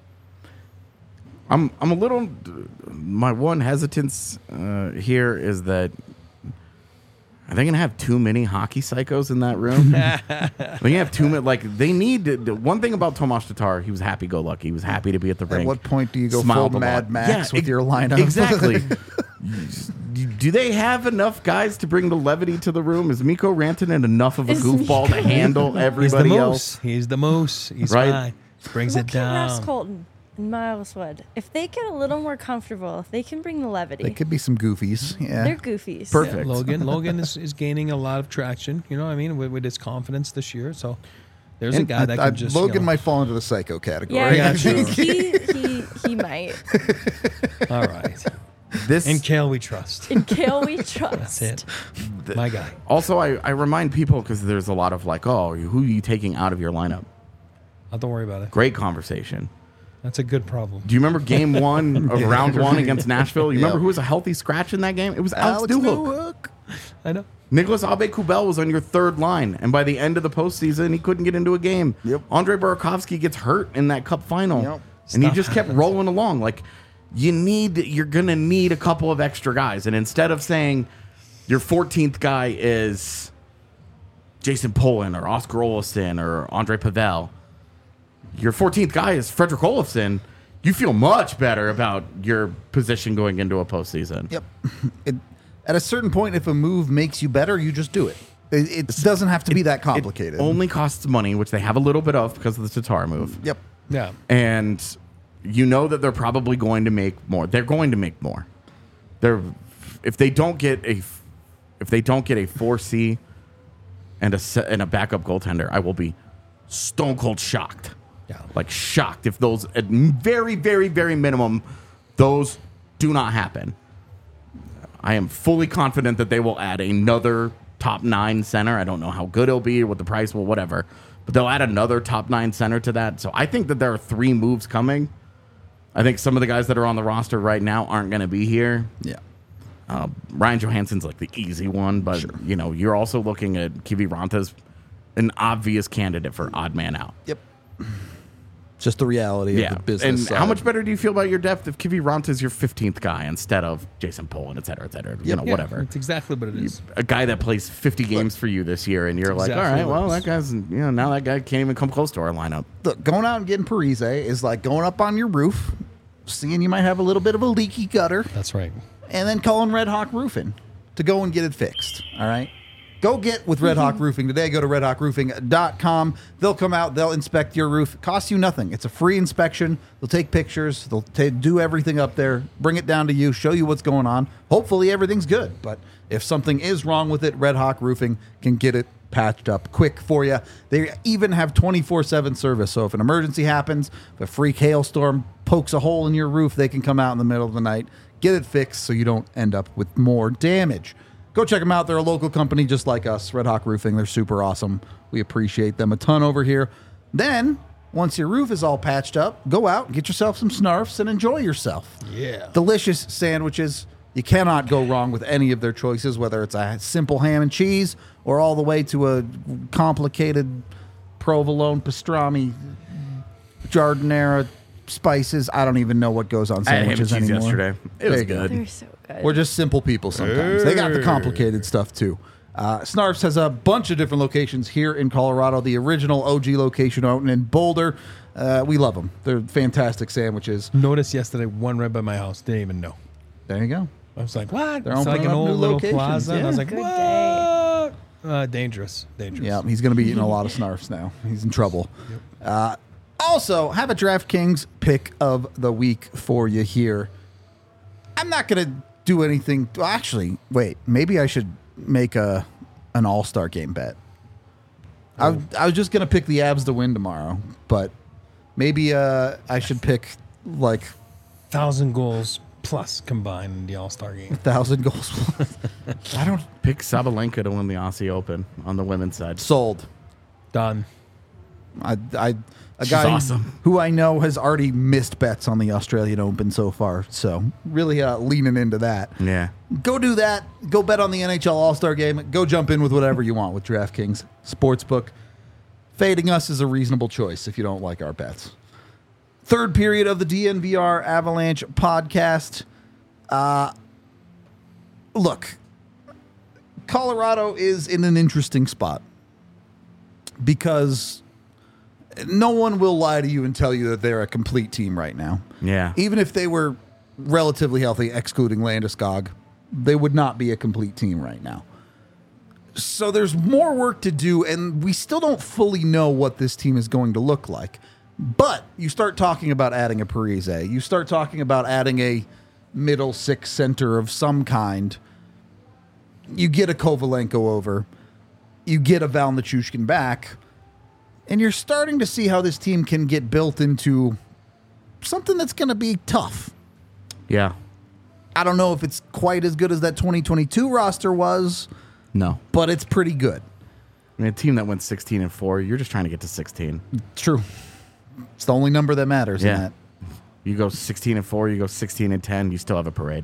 I'm a little. My one hesitance here is that are they going to have too many hockey psychos in that room? They're going to have too many. Like, they need one thing about Tomas Tatar. He was happy-go-lucky. He was happy to be at the rink. At what point do you go full Mad Max with your lineup? Exactly. Do they have enough guys to bring the levity to the room? Is Mikko Rantanen enough of a goofball to handle everybody else? He's the moose. He's right? fine. Brings it down. Ross Colton and Miles Wood. If they get a little more comfortable, if they can bring the levity. They could be some goofies. Yeah. They're goofies. Perfect. Yeah, Logan is gaining a lot of traction, you know what I mean, with his confidence this year. So there's a guy that can just... Logan might fall into the psycho category. Yeah, he might. All right. In Kale we trust. In Kale we trust. That's it. My guy. Also, I remind people, because there's a lot of like, oh, who are you taking out of your lineup? Oh, don't worry about it. Great conversation. That's a good problem. Do you remember game 1 of round 1 against Nashville? You remember who was a healthy scratch in that game? It was Alex Newhook. I know. Nicholas Aube-Kubel was on your 3rd line, and by the end of the postseason, he couldn't get into a game. Yep. Andre Burakovsky gets hurt in that cup final, and he Stuff just kept rolling along. Like, you're gonna need a couple of extra guys, and instead of saying your 14th guy is Jason Poland or Oscar Olofsson or Andre Pavel, your 14th guy is Fredrik Olofsson, you feel much better about your position going into a postseason. Yep. At a certain point, if a move makes you better, you just do it. It doesn't have to be that complicated. It only costs money, which they have a little bit of because of the Tatar move. Yep. Yeah. And you know that they're probably going to make more. They're going to make more. If they don't get a 4C and a backup goaltender, I will be stone cold shocked. Yeah. Like shocked if those at very, very, very minimum, those do not happen. I am fully confident that they will add another top 9 center. I don't know how good it'll be, what the price will, whatever. But they'll add another top 9 center to that. So I think that there are 3 moves coming. I think some of the guys that are on the roster right now aren't going to be here. Yeah. Ryan Johansson's like the easy one, but you know, you're also looking at Kiviranta as an obvious candidate for odd man out. Yep. Just the reality of the business. And side. how much better do you feel about your depth if Kiviranta is your 15th guy instead of Jason Poland, et cetera, you know, whatever. That's exactly what it is. A guy that plays 50 games for you this year, and you're like, all right, well, that guy's, you know, now that guy can't even come close to our lineup. Look, going out and getting Parise is like going up on your roof, seeing you might have a little bit of a leaky gutter. That's right. And then calling Red Hawk Roofing to go and get it fixed. All right. Go get with Red Hawk Roofing today. Go to redhawkroofing.com. They'll come out. They'll inspect your roof. It costs you nothing. It's a free inspection. They'll take pictures. They'll do everything up there, bring it down to you, show you what's going on. Hopefully everything's good. But if something is wrong with it, Red Hawk Roofing can get it patched up quick for you. They even have 24/7 service. So if an emergency happens, if a freak hailstorm pokes a hole in your roof, they can come out in the middle of the night, get it fixed so you don't end up with more damage. Go check them out. They're a local company just like us, Red Hawk Roofing. They're super awesome. We appreciate them a ton over here. Then, once your roof is all patched up, go out and get yourself some Snarfs and enjoy yourself. Yeah. Delicious sandwiches. You cannot go wrong with any of their choices, whether it's a simple ham and cheese or all the way to a complicated provolone, pastrami, giardiniera, spices. I don't even know what goes on sandwiches I had ham and cheese anymore. yesterday. It was good. They're so good. We're just simple people sometimes. They got the complicated stuff too. Snarfs has a bunch of different locations here in Colorado. The original OG location out in Boulder. We love them. They're fantastic sandwiches. Noticed yesterday one right by my house. Didn't even know. There you go. I was like, what? They're It's like opening an up new old little locations. plaza. And I was like, Good what? Dangerous. Yeah, he's going to be eating a lot of Snarfs now. He's in trouble. Also, have a DraftKings pick of the week for you here. I'm not going to do anything. Well, actually, wait. Maybe I should make an all-star game bet. I was just going to pick the Avs to win tomorrow, but maybe I should pick like 1,000 goals plus combined in the All-Star game. 1,000 goals plus. I don't pick Sabalenka to win the Aussie Open on the women's side. Sold. Done. A She's guy awesome. who I know has already missed bets on the Australian Open so far. So really leaning into that. Yeah. Go do that. Go bet on the NHL All-Star Game. Go jump in with whatever you want with DraftKings Sportsbook. Fading us is a reasonable choice if you don't like our bets. Third period of the DNVR Avalanche podcast. Look, Colorado is in an interesting spot because no one will lie to you and tell you that they're a complete team right now. Yeah. Even if they were relatively healthy, excluding Landeskog, they would not be a complete team right now. So there's more work to do, and we still don't fully know what this team is going to look like. But you start talking about adding a Parise. You start talking about adding a middle six center of some kind. You get a Kovalenko over. You get a Val Nichushkin back. And you're starting to see how this team can get built into something that's going to be tough. Yeah. I don't know if it's quite as good as that 2022 roster was. No. But it's pretty good. I mean, a team that went 16-4, you're just trying to get to 16. True. It's the only number that matters in that. You go 16-4, you go 16-10, you still have a parade.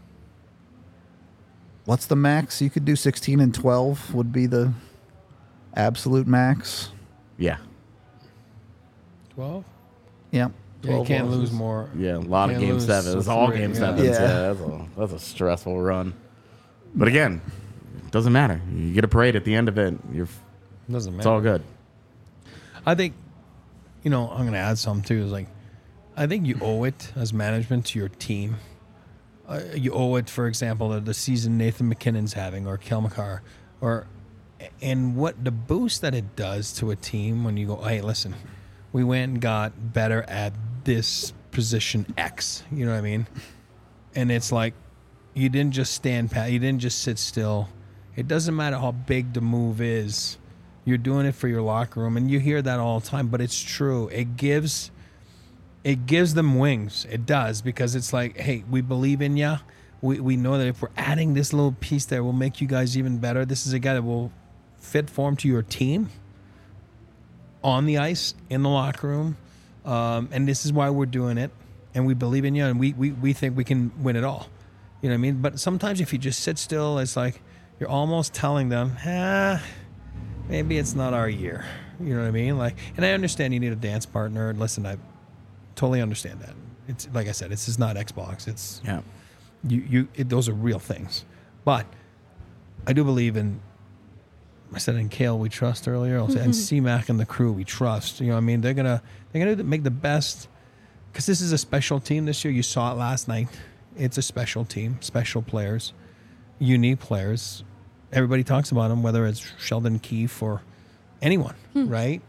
What's the max? You could do 16-12 would be the absolute max. Yeah. 12? Yeah. Yeah, you can't lose more. Yeah, a lot of Can't game lose sevens. so All three, game yeah. sevens. Yeah, that's a stressful run. But again, it doesn't matter. You get a parade at the end of it. Doesn't matter. It's all good. I think, I'm going to add something too. Is like, I think you owe it as management to your team. You owe it, for example, the season Nathan McKinnon's having, or Kel McCarr, and what the boost that it does to a team when you go, hey, listen, we went and got better at this position X. You know what I mean? And it's like, you didn't just stand pat. You didn't just sit still. It doesn't matter how big the move is. You're doing it for your locker room, and you hear that all the time. But it's true. It gives them wings. It does, because it's like, hey, we believe in you. We know that if we're adding this little piece there, we'll make you guys even better. This is a guy that will fit form to your team on the ice, in the locker room, and this is why we're doing it. And we believe in you, and we think we can win it all. You know what I mean? But sometimes if you just sit still, it's like you're almost telling them, maybe it's not our year. You know what I mean? Like, and I understand you need a dance partner. And listen, I totally understand that. It's like I said, it's just not Xbox. It's those are real things. But I do believe in. I said in Kale we trust earlier. I'll say and C-Mac and the crew we trust. You know what I mean? They're gonna make the best, because this is a special team this year. You saw it last night. It's a special team, special players, unique players. Everybody talks about them, whether it's Sheldon Keefe or anyone, right?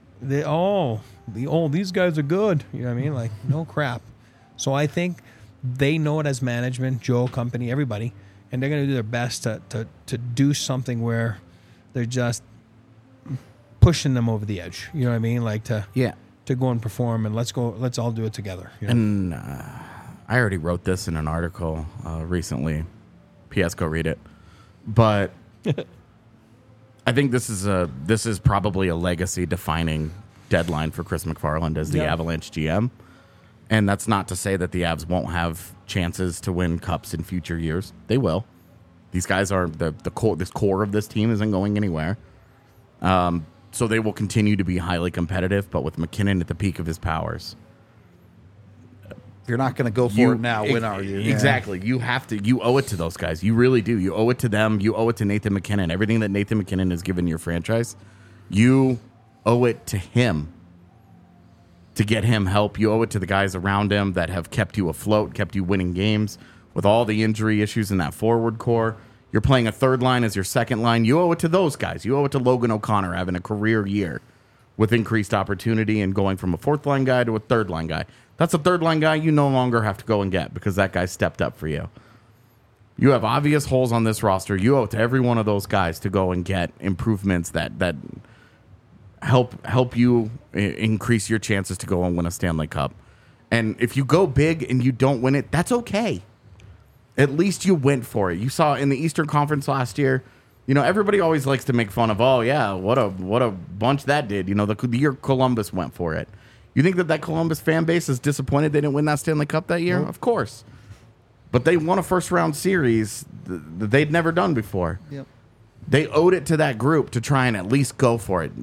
These guys are good. You know what I mean? Like, no crap. So I think they know it as management, Joe, company, everybody, and they're going to do their best to do something where they're just pushing them over the edge. You know what I mean? Like to go and perform, and let's all do it together. You know? And I already wrote this in an article recently. P.S. Go read it. But I think this is probably a legacy-defining deadline for Chris McFarland as the Avalanche GM. And that's not to say that the Avs won't have chances to win cups in future years. They will. These guys are the core. This core of this team isn't going anywhere. So they will continue to be highly competitive. But with McKinnon at the peak of his powers, you're not going to go for it now. When are you? Exactly. You have to. You owe it to those guys. You really do. You owe it to them. You owe it to Nathan McKinnon. Everything that Nathan McKinnon has given your franchise, you owe it to him to get him help. You owe it to the guys around him that have kept you afloat, kept you winning games. With all the injury issues in that forward core, you're playing a third line as your second line. You owe it to those guys. You owe it to Logan O'Connor having a career year with increased opportunity and going from a fourth line guy to a third line guy. That's a third line guy you no longer have to go and get because that guy stepped up for you. You have obvious holes on this roster. You owe it to every one of those guys to go and get improvements that help you increase your chances to go and win a Stanley Cup. And if you go big and you don't win it, that's okay. At least you went for it. You saw in the Eastern Conference last year, everybody always likes to make fun of, oh, yeah, what a bunch that did. The year Columbus went for it. You think that Columbus fan base is disappointed they didn't win that Stanley Cup that year? Nope. Of course. But they won a first-round series that they'd never done before. Yep. They owed it to that group to try and at least go for it.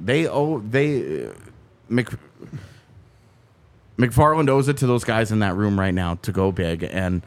McFarland owes it to those guys in that room right now to go big. And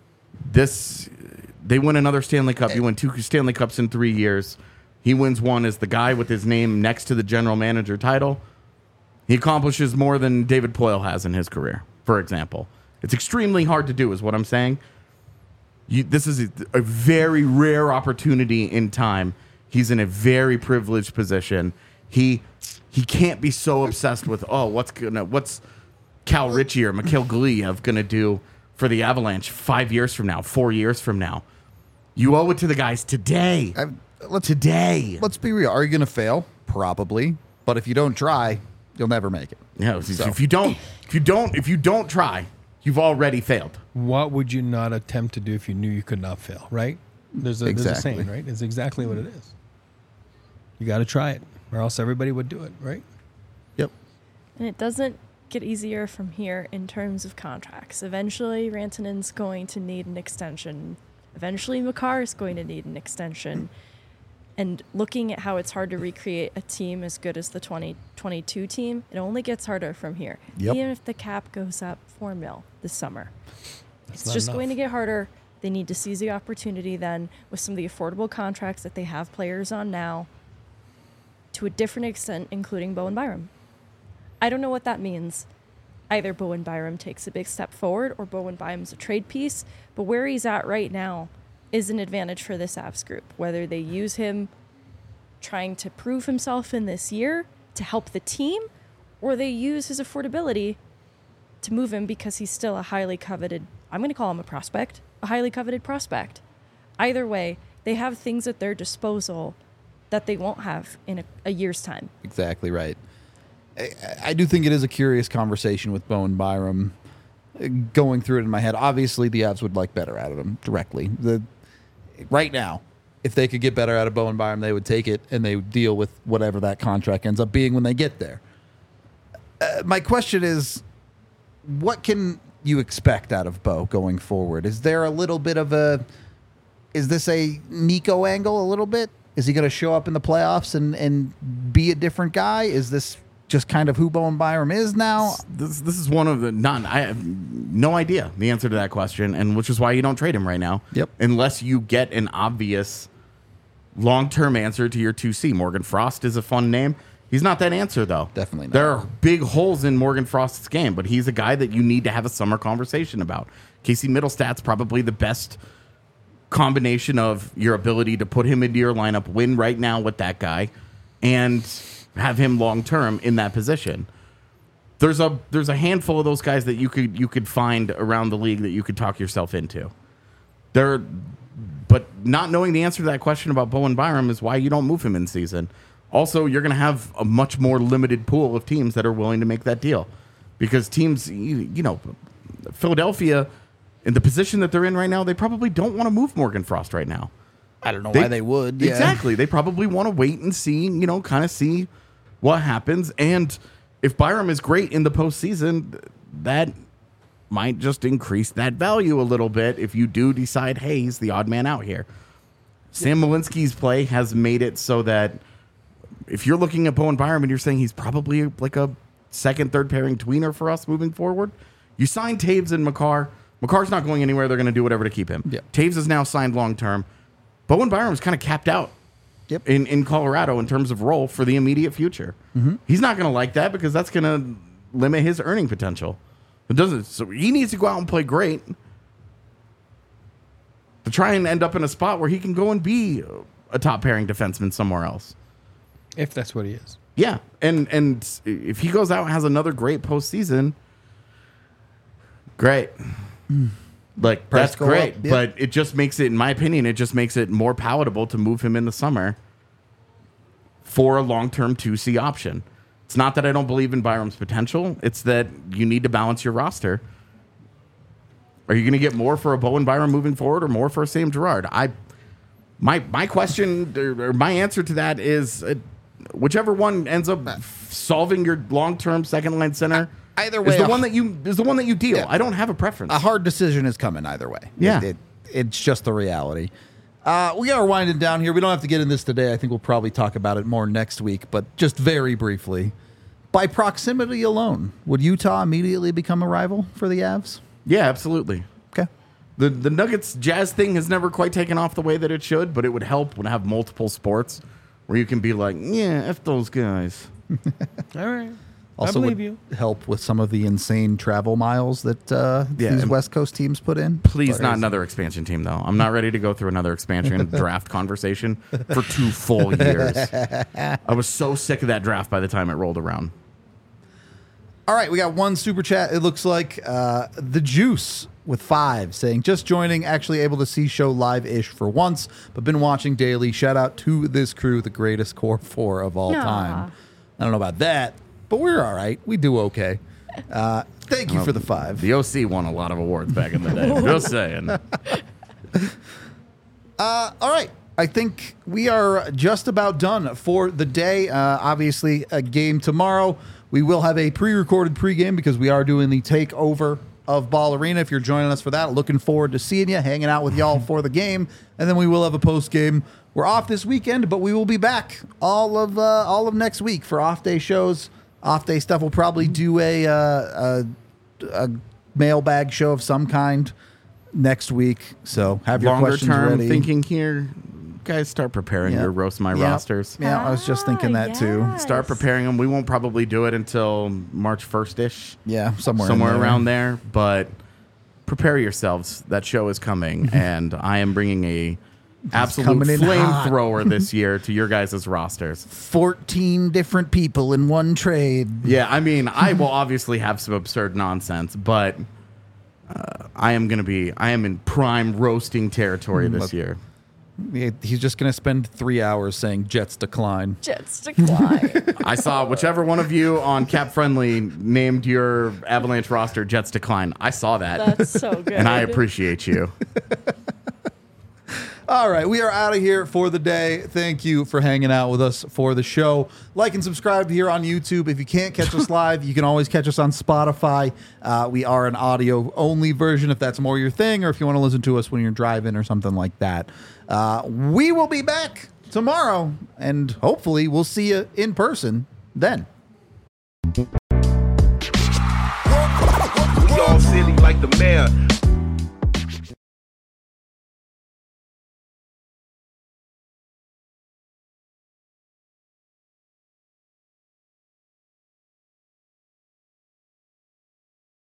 they win another Stanley Cup. You win 2 Stanley Cups in 3 years. He wins one as the guy with his name next to the general manager title. He accomplishes more than David Poile has in his career, for example. It's extremely hard to do, is what I'm saying. This is a very rare opportunity in time. He's in a very privileged position. He can't be so obsessed with, what's Cal Ritchie or Mikhail Guliev going to do for the Avalanche 5 years from now, 4 years from now. You owe it to the guys today. Today. Let's be real. Are you going to fail? Probably. But if you don't try, you'll never make it. Yeah. So. If you don't try, you've already failed. What would you not attempt to do if you knew you could not fail? Right? There's a saying, right? It's exactly what it is. You got to try it, or else everybody would do it, right? Yep. And it doesn't get easier from here in terms of contracts. Eventually, Rantanen's going to need an extension. Eventually, Makar is going to need an extension. And looking at how it's hard to recreate a team as good as the 2022 team, it only gets harder from here. Yep. Even if the cap goes up $4 million this summer. That's It's just going to get harder. They need to seize the opportunity then with some of the affordable contracts that they have players on now to a different extent, including Bowen Byram. I don't know what that means. Either Bowen Byram takes a big step forward or Bowen Byram's a trade piece, but where he's at right now is an advantage for this Avs group. Whether they use him trying to prove himself in this year to help the team, or they use his affordability to move him because he's still a highly coveted, I'm going to call him a prospect, a highly coveted prospect. Either way, they have things at their disposal that they won't have in a year's time. Exactly right. I do think it is a curious conversation with Bowen Byram. Going through it in my head, obviously the Avs would like better out of him directly. Right now, if they could get better out of Bowen Byram, they would take it and they would deal with whatever that contract ends up being when they get there. My question is, what can you expect out of Bo going forward? Is there a little bit of is this a Nico angle a little bit? Is he going to show up in the playoffs and be a different guy? Is this just kind of who Bowen Byram is now? This is one of the I have no idea the answer to that question, and which is why you don't trade him right now. Yep. Unless you get an obvious long-term answer to your 2C. Morgan Frost is a fun name. He's not that answer, though. Definitely not. There are big holes in Morgan Frost's game, but he's a guy that you need to have a summer conversation about. Casey Middlestat's probably the best combination of your ability to put him into your lineup, win right now with that guy, and have him long-term in that position. There's a handful of those guys that you could find around the league that you could talk yourself into. But not knowing the answer to that question about Bowen Byram is why you don't move him in season. Also, you're going to have a much more limited pool of teams that are willing to make that deal. Because teams, Philadelphia, in the position that they're in right now, they probably don't want to move Morgan Frost right now. I don't know why they would. Yeah. Exactly. They probably want to wait and see, kind of see what happens. And if Byram is great in the postseason, that might just increase that value a little bit if you do decide, hey, he's the odd man out here. Sam Malinsky's play has made it so that if you're looking at Bowen Byram and you're saying he's probably like a second, third pairing tweener for us moving forward, you sign Taves and Makar. Makar's not going anywhere. They're going to do whatever to keep him. Yeah. Taves is now signed long-term. Bowen Byram is kind of capped out in Colorado in terms of role for the immediate future. Mm-hmm. He's not going to like that because that's going to limit his earning potential. It doesn't. So he needs to go out and play great to try and end up in a spot where he can go and be a top pairing defenseman somewhere else. If that's what he is. Yeah. And if he goes out and has another great postseason, great. Like, that's great. Yep. But it just makes it, in my opinion, it just makes it more palatable to move him in the summer for a long-term 2C option. It's not that I don't believe in Byram's potential. It's that you need to balance your roster. Are you going to get more for a Bowen Byram moving forward or more for a Sam Girard? My question or my answer to that is whichever one ends up solving your long-term second-line center either way is the one that you deal. Yeah. I don't have a preference. A hard decision is coming either way. Yeah. It's just the reality. We are winding down here. We don't have to get in this today. I think we'll probably talk about it more next week, but just very briefly. By proximity alone, would Utah immediately become a rival for the Avs? Yeah, absolutely. Okay. The Nuggets Jazz thing has never quite taken off the way that it should, but it would help when I have multiple sports where you can be like, yeah, F those guys. All right. Also I believe would you. help with some of the insane travel miles that these West Coast teams put in. Please, not another expansion team, though. I'm not ready to go through another expansion draft conversation for 2 full years. I was so sick of that draft by the time it rolled around. All right, we got one super chat. It looks like The Juice with 5 saying, just joining, actually able to see show live-ish for once, but been watching daily. Shout out to this crew, the greatest core 4 of all time. I don't know about that, but we're all right. We do okay. Thank you for the 5. The OC won a lot of awards back in the day. Just saying. All right. I think we are just about done for the day. Obviously, a game tomorrow. We will have a pre-recorded pregame because we are doing the takeover of Ball Arena. If you're joining us for that, looking forward to seeing you, hanging out with y'all for the game. And then we will have a post-game. We're off this weekend, but we will be back all of next week for off-day shows. Off-day stuff. We'll probably do a mailbag show of some kind next week. So have your questions ready. Longer term thinking here. Guys, start preparing your Roast My Rosters. Yeah, I was just thinking that too. Start preparing them. We won't probably do it until March 1st-ish. Yeah, somewhere around there. But prepare yourselves. That show is coming, and I am bringing a absolute flamethrower this year to your guys' rosters. 14 different people in one trade. Yeah, I mean, I will obviously have some absurd nonsense, but I am in prime roasting territory this year. He's just going to spend 3 hours saying Jets decline. Jets decline. I saw whichever one of you on Cap Friendly named your Avalanche roster Jets decline. I saw that. That's so good. And I appreciate you. All right, we are out of here for the day. Thank you for hanging out with us for the show. Like and subscribe here on YouTube. If you can't catch us live, you can always catch us on Spotify. We are an audio-only version if that's more your thing, or if you want to listen to us when you're driving or something like that. We will be back tomorrow, and hopefully we'll see you in person then. We all silly like the mayor.